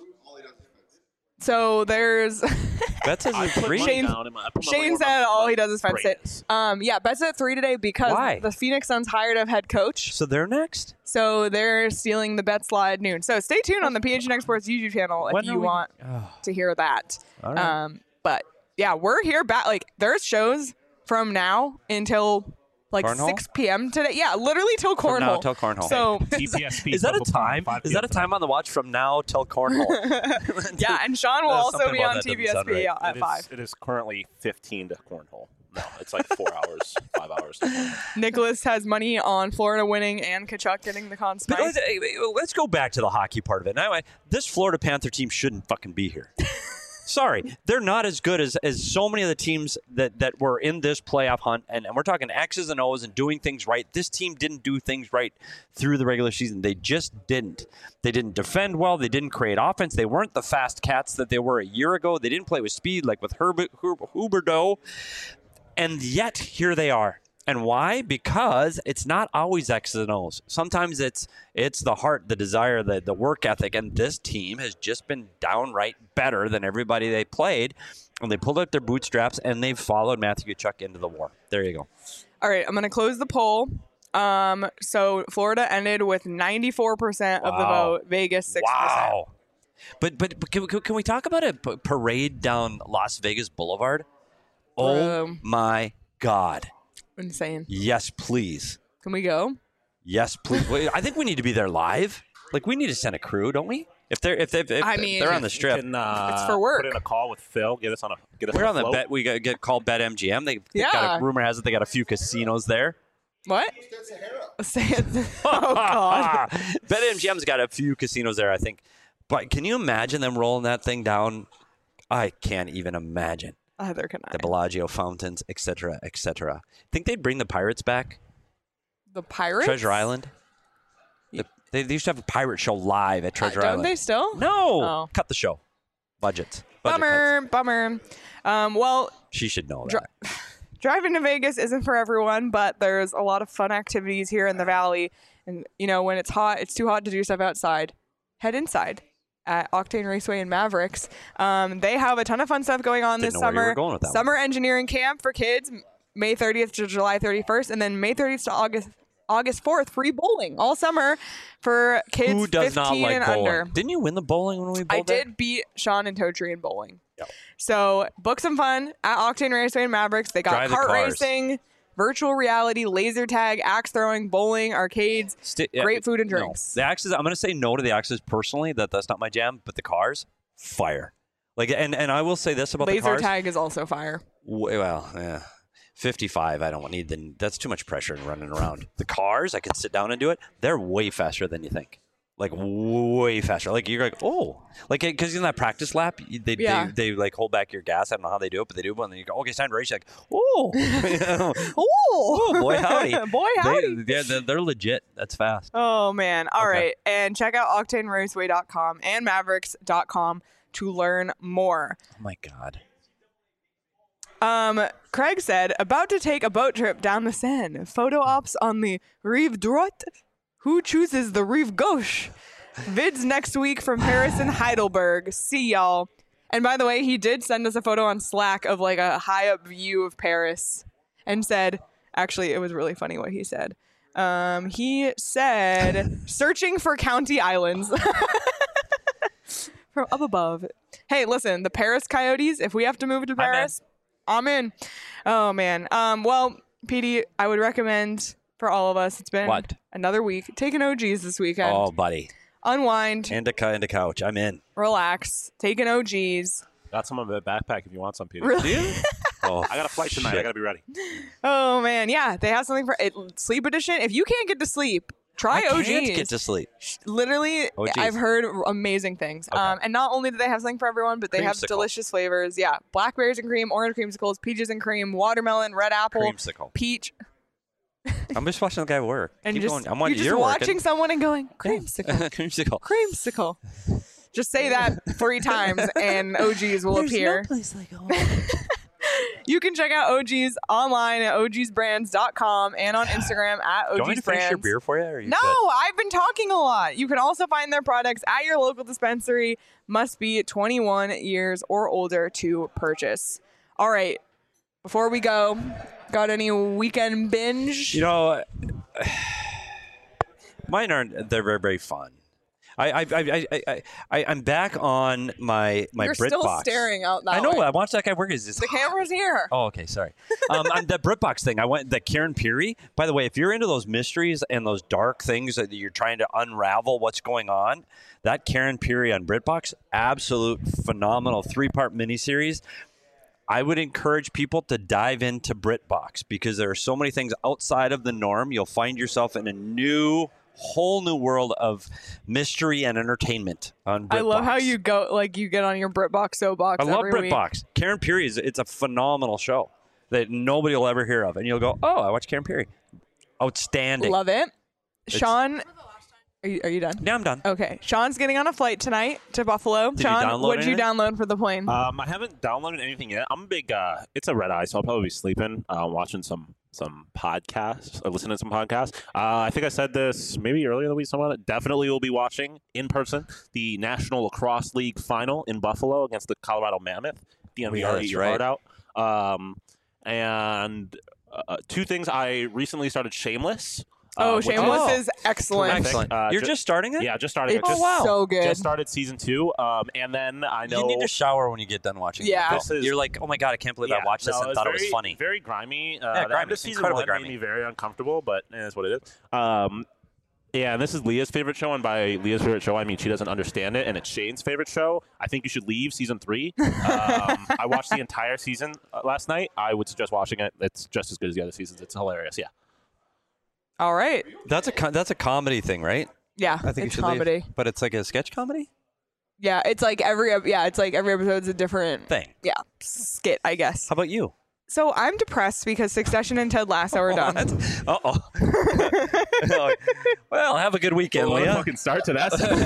So there's. Bet's is a I put three? money Shane- down in my- I put my money Shane on my- said all my he does is fence sit. greatness. Um, yeah, Bet's at three today because Why? the Phoenix Suns hired a head coach, So they're next? so they're stealing the Bet slide at noon. So stay tuned on the P H N X Sports YouTube channel if When you are we- want Oh, to hear that. all right. Um, but yeah, we're here back. Like there's shows from now until like Cornhole? six p.m. today. Yeah, literally till From cornhole. now till cornhole. So T P S P is that a Football time? five Is that a p m time on the watch from now till cornhole? yeah, and Sean will Uh, also something be about on that T doesn't V S sound P right. at It five. is, it is currently fifteen to cornhole. No, it's like four hours, five hours. Nicholas has money on Florida winning and Kachuk getting the Conn But Smythe. let's, hey, let's go back to the hockey part of it. Now, this Florida Panther team shouldn't fucking be here. Sorry, they're not as good as, as so many of the teams that, that were in this playoff hunt, and, and we're talking X's and O's and doing things right. This team didn't do things right through the regular season. They just didn't. They didn't defend well. They didn't create offense. They weren't the fast cats that they were a year ago. They didn't play with speed like with Herbert, Herb, Huberdeau, and yet here they are. And why? Because it's not always X's and O's. Sometimes it's it's the heart, the desire, the, the work ethic. And this team has just been downright better than everybody they played. And they pulled out their bootstraps and they've followed Matthew Tkachuk into the war. There you go. All right, I'm going to close the poll. Um, so Florida ended with ninety-four percent of the Wow. vote. Vegas six percent. Wow. But but, but can, can we talk about a p- parade down Las Vegas Boulevard? Oh Um, my God. Insane. Yes, please. Can we go? Yes, please. Wait, I think we need to be there live. Like we need to send a crew, don't we? If they're if they if, I if mean, they're on the You strip, can, uh, It's for work. Put in a call with Phil. Get us on a get us we're on, on a the float. bet. We got get called Bet M G M. They, they got Yeah. a, rumor has it they got a few casinos there. What? Say it. Oh God. Bet M G M's got a few casinos there, I think. But can you imagine them rolling that thing down? I can't even imagine. Either can I. The Bellagio fountains, et cetera, et cetera. Think they'd bring the pirates back? The Pirates? Treasure Island? The, they, they used to have a pirate show live at Treasure Uh, don't Island. they still? No. Oh. Cut the show. Budget. Budget Bummer. cuts. Bummer. Um, well, She should know Dri- that. driving to Vegas isn't for everyone, but there's a lot of fun activities here in the valley. And, you know, when it's hot, it's too hot to do stuff outside. Head inside at Octane Raceway and Mavericks. Um, they have a ton of fun stuff going on Didn't this know where you summer. were going with that one. Summer engineering camp for kids, May thirtieth to July thirty-first, and then May thirtieth to August August fourth, free bowling all summer for kids Who does not fifteen like and bowling? under. Didn't you win the bowling when we bowled I there? did beat Sean and Totri in bowling. Yep. So book some fun at Octane Raceway and Mavericks. They got Drive the kart cars. racing, virtual reality, laser tag, axe throwing, bowling, arcades, Sti- yeah, great food and no. drinks. The axes. I'm going to say no to the axes personally. That that's not my jam. But the cars, fire. Like and and I will say this about the Laser cars. tag is also fire. W- Well, yeah. fifty-five, I don't need the. That's too much pressure in running around. The cars, I can sit down and do it. They're way faster than you think. like way faster. Like you're like, oh, like because in that practice lap, you- they, Yeah. they they like hold back your gas. I don't know how they do it, but they do. And then you go, okay, it's time to race. You're like, oh, Oh, oh, boy, howdy, boy, howdy. They, yeah, they're, they're legit. That's fast. Oh man. All Okay. right. And check out octane raceway dot com and mavericks dot com to learn more. Oh my god. Um, Craig said, about to take a boat trip down the Seine. Photo ops on the Rive Droite. Who chooses the Rive Gauche? Vids next week from Paris and Heidelberg. See y'all. And by the way, he did send us a photo on Slack of like a high up view of Paris and said, actually, it was really funny what he said. Um, he said, searching for county islands. From up above. Hey, listen, the Paris Coyotes, if we have to move to Paris, I'm in. Oh, man. Um, well, P D, I would recommend for all of us, it's been What? another week. Take an O Gs this weekend. Oh, buddy. Unwind, And a, cou- and a couch. I'm in. relax, take an O Gs. Got some of the backpack if you want some, Peter. Really? Oh, I got a flight tonight. I shit. got to be ready. Oh, man. Yeah, they have something for it. Sleep edition. If you can't get to sleep, try I O Gs. can't get to sleep. Literally, O Gs. I've heard amazing things. Okay. Um, and not only do they have something for everyone, but they have Creamsicle. delicious flavors. Yeah, blackberries and cream, orange creamsicles, peaches and cream, watermelon, red apple, Creamsicle. peach, I'm just watching the guy work. and Keep just going. I'm watching you're just you're watching working. someone and going Yeah. creamsicle, Creamsicle. creamsicle. Just say that three times, and O Gs will appear. place like home. You can check out O Gs online at o gs brands dot com and on Instagram at Do you want me to finish your ogsbrands. beer for you? Or are you No, good? I've been talking a lot. You can also find their products at your local dispensary. Must be twenty-one years or older to purchase. All right. Before we go, got any weekend binge? You know, mine aren't. They're very, very fun. I, I, I, I, I, I I'm back on my my You're BritBox. still staring out that I know. way. I watched that guy work. Is this The camera's here. Oh, okay. Sorry. Um, I'm, that BritBox thing. I went the Karen Peary. By the way, if you're into those mysteries and those dark things that you're trying to unravel what's going on, that Karen Peary on BritBox, absolute phenomenal three part miniseries. I would encourage people to dive into BritBox because there are so many things outside of the norm. You'll find yourself in a new, whole new world of mystery and entertainment on BritBox. I love how you go, like, you get on your BritBox soapbox I love every week. BritBox. Karen Peary is it's a phenomenal show that nobody will ever hear of, and you'll go, "Oh, I watch Karen Peary." Outstanding. Love it. Sean, are you, are you done? Yeah, I'm done. Okay. Sean's getting on a flight tonight to Buffalo. Did you Sean, download what did you anything? download for the plane? Um, I haven't downloaded anything yet. I'm a big. Uh, it's a red eye, so I'll probably be sleeping, uh, watching some some podcasts or listening to some podcasts. Uh, I think I said this maybe earlier in the week. Someone definitely will be watching in person the National Lacrosse League final in Buffalo against the Colorado Mammoth. D N V Yeah, R, that's eat your right. heart out. Um, and uh, two things. I recently started Shameless. uh, oh, which Shameless Oh. is excellent. terrific. Excellent. Uh, You're ju- just starting it? Yeah, just starting. It's it. Just, wow. so good. just started season two. Um, and then I know You need to shower when you get done watching. Yeah. it. This is- You're like, oh my god, I can't believe I watched this no, and it's thought very, it was funny. Very grimy. Uh, Yeah, the grimy. end of season Incredibly one grimy. made me very uncomfortable, but eh, that's what it is. Um, yeah, and this is Leah's favorite show, and by Leah's favorite show, I mean she doesn't understand it, and it's Shane's favorite show. I think you should leave season three. Um, I watched the entire season uh, last night. I would suggest watching it. It's just as good as the other seasons. It's hilarious. Yeah. All right. That's a co- that's a comedy thing, right? Yeah, I think it's you should leave. comedy. But it's like a sketch comedy Yeah, it's like every ep- yeah, it's like every episode's a different thing. yeah skit, I guess. How about you? So I'm depressed because Succession and Ted Lasso are done. Uh oh. Well, have a good weekend, What a Leah. fucking start to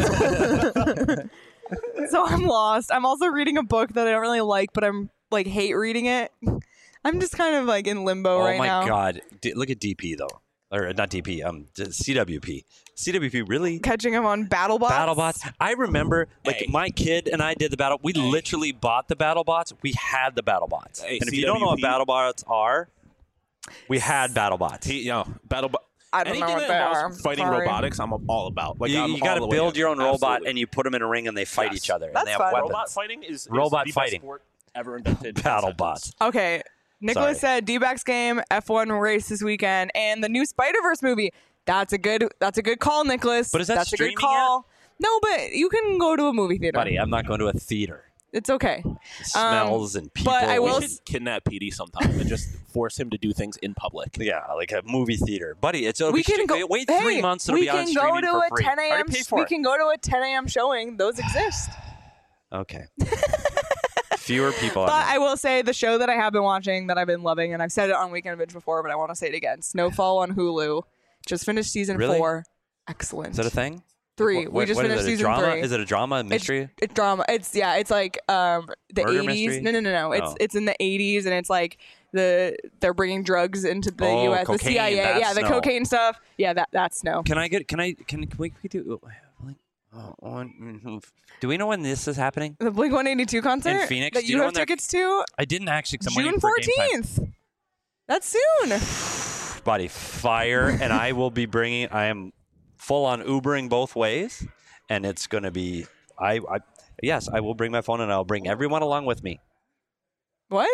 that. So I'm lost. I'm also reading a book that I don't really like, but I'm like hate reading it. I'm just kind of like in limbo Oh right my now. god! D- look at D P though, or not D P. Um, d- C W P. C W P really. Catching him on BattleBots. BattleBots. I remember, like Hey. my kid and I did the battle. We literally bought the BattleBots. We had the BattleBots. Hey, and if you don't know what C W P BattleBots are, we had BattleBots. he, you know, battle. I don't know Anything what that they involves are. fighting Sorry. robotics, I'm all about. Like you I'm you got all to the way build in. your own robot, Absolutely. and you put them in a ring, and they fight Yes. each other, That's and they have fun. weapons. Robot fighting is, is Robot the fighting. best sport ever invented. in BattleBots. sentence. Okay. Nicholas Sorry. said D-backs game, F one race this weekend, and the new Spider-Verse movie. That's a good that's a good call, Nicholas. But is that That's a streaming good call. No, but you can go to a movie theater. Buddy, I'm not going to a theater. It's okay. Smells Um, and people. but I We will should s- kidnap P D sometime and just force him to do things in public. Yeah, like a movie theater, buddy. It's it'll we be can st- go. Wait hey, three months. It'll we be on can go streaming to for a free. ten Already a.m. paid for We it. can go to a ten a.m. showing. Those exist. Okay. Fewer people. But on there. I will say the show that I have been watching that I've been loving, and I've said it on Weekend Binge before, but I want to say it again. Snowfall on Hulu. Just finished season Really? four. Excellent. Is that a thing? Three. What- we just what is finished it, a season drama? three. Is it a drama, mystery? It's, it's drama. It's yeah. It's like um the Murder eighties. mystery? No, no, no, no. It's Oh. it's in the eighties, and it's like the they're bringing drugs into the Oh, U S. The cocaine, C I A. that's Yeah, the Snow. cocaine stuff. Yeah, that that's Snow. Can I get? Can I? Can, can we, can we do? Oh, one, do we know when this is happening? The Blink one eighty-two concert In Phoenix? that Do you, you know have when they're- tickets to I didn't actually. 'Cause I'm June waiting for game time. fourteenth. That's soon. Buddy, fire, and I will be bringing. I am full on Ubering both ways, and it's going to be. I, I yes, I will bring my phone, and I'll bring everyone along with me. What?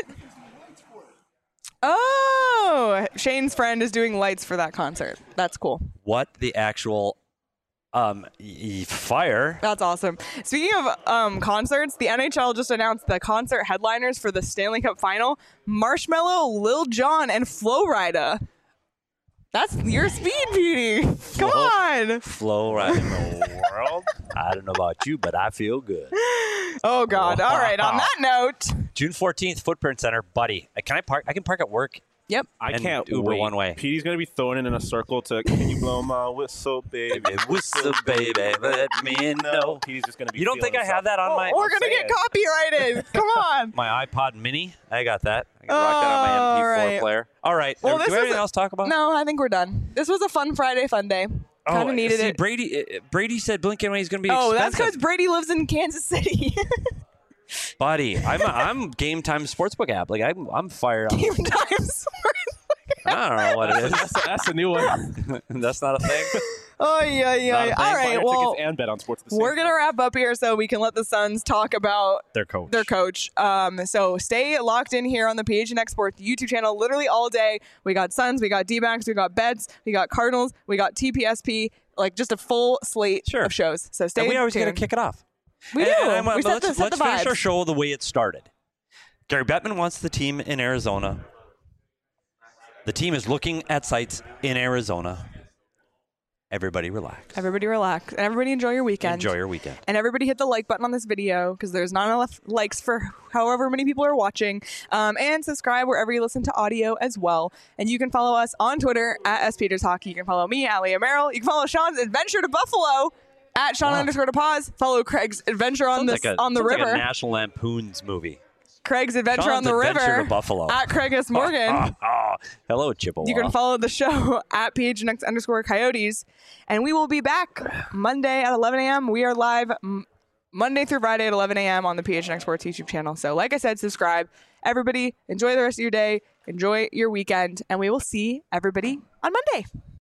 Oh, Shane's friend is doing lights for that concert. That's cool. What the actual um y- y- fire? That's awesome. Speaking of um, concerts, the N H L just announced the concert headliners for the Stanley Cup Final: Marshmello, Lil Jon, and Flo Rida. That's your speed, Beauty. Come Flo- on. Flow right in the world. I don't know about you, but I feel good. Oh God. All right. On that note, June fourteenth, Footprint Center, buddy. Uh, Can I park? I can park at work. yep. I And can't Uber wait. one way. P D's gonna be throwing it in a circle to "Can you blow my whistle, baby? Whistle, baby, let me know. P D's just gonna be. You don't think I feeling have that on my We're gonna get copyrighted. Come on. my iPod Mini? I got that. I can rock that on my M P four All right. player. All right. Well, Uh, this do we have was anything a- else to talk about? No, I think we're done. This was a fun Friday, fun day. Kind of needed see, it. Brady. uh, Brady said Blink one eighty is going to be Oh, that's expensive. because Brady lives in Kansas City. Buddy, I'm a, I'm Game Time Sportsbook app. Like I'm I'm fired up. Game times. I don't know what it is. That's, that's a new one. That's not a thing. Oh yeah, yeah. Not a yeah. thing. All Buy right. your Well, tickets and bet on sports. at the same we're gonna time. wrap up here so we can let the Suns talk about Their coach. their coach. Um, so stay locked in here on the P H N X Sports YouTube channel literally all day. We got Suns, we got D-backs, we got Beds, we got Cardinals, we got T P S P, like just a full slate Sure. of shows. So stay And we always got to tuned. kick it off. We And- do. and I'm- we set let's the, set let's the finish vibes. our show the way it started. Gary Bettman wants the team in Arizona. The team is looking at sites in Arizona. Everybody relax. Everybody relax and everybody enjoy your weekend. Enjoy your weekend. And everybody hit the like button on this video because there's not enough likes for however many people are watching. Um, and subscribe wherever you listen to audio as well. And you can follow us on Twitter at S Peters Hockey. You can follow me, Allie Merrill. You can follow Sean's adventure to Buffalo at Sean Wow. underscore to pause. Follow Craig's adventure on Sounds the like a, on the sounds like river. a National Lampoon's movie. Craig's adventure Sean's on the Adventure river to Buffalo. at Craig S. Morgan. Hello, Chippewa. You can follow the show at P H N X underscore Coyotes. And we will be back Monday at eleven a.m. We are live m- Monday through Friday at eleven a.m. on the P H N X Sports YouTube channel. So like I said, subscribe. Everybody, enjoy the rest of your day. Enjoy your weekend. And we will see everybody on Monday.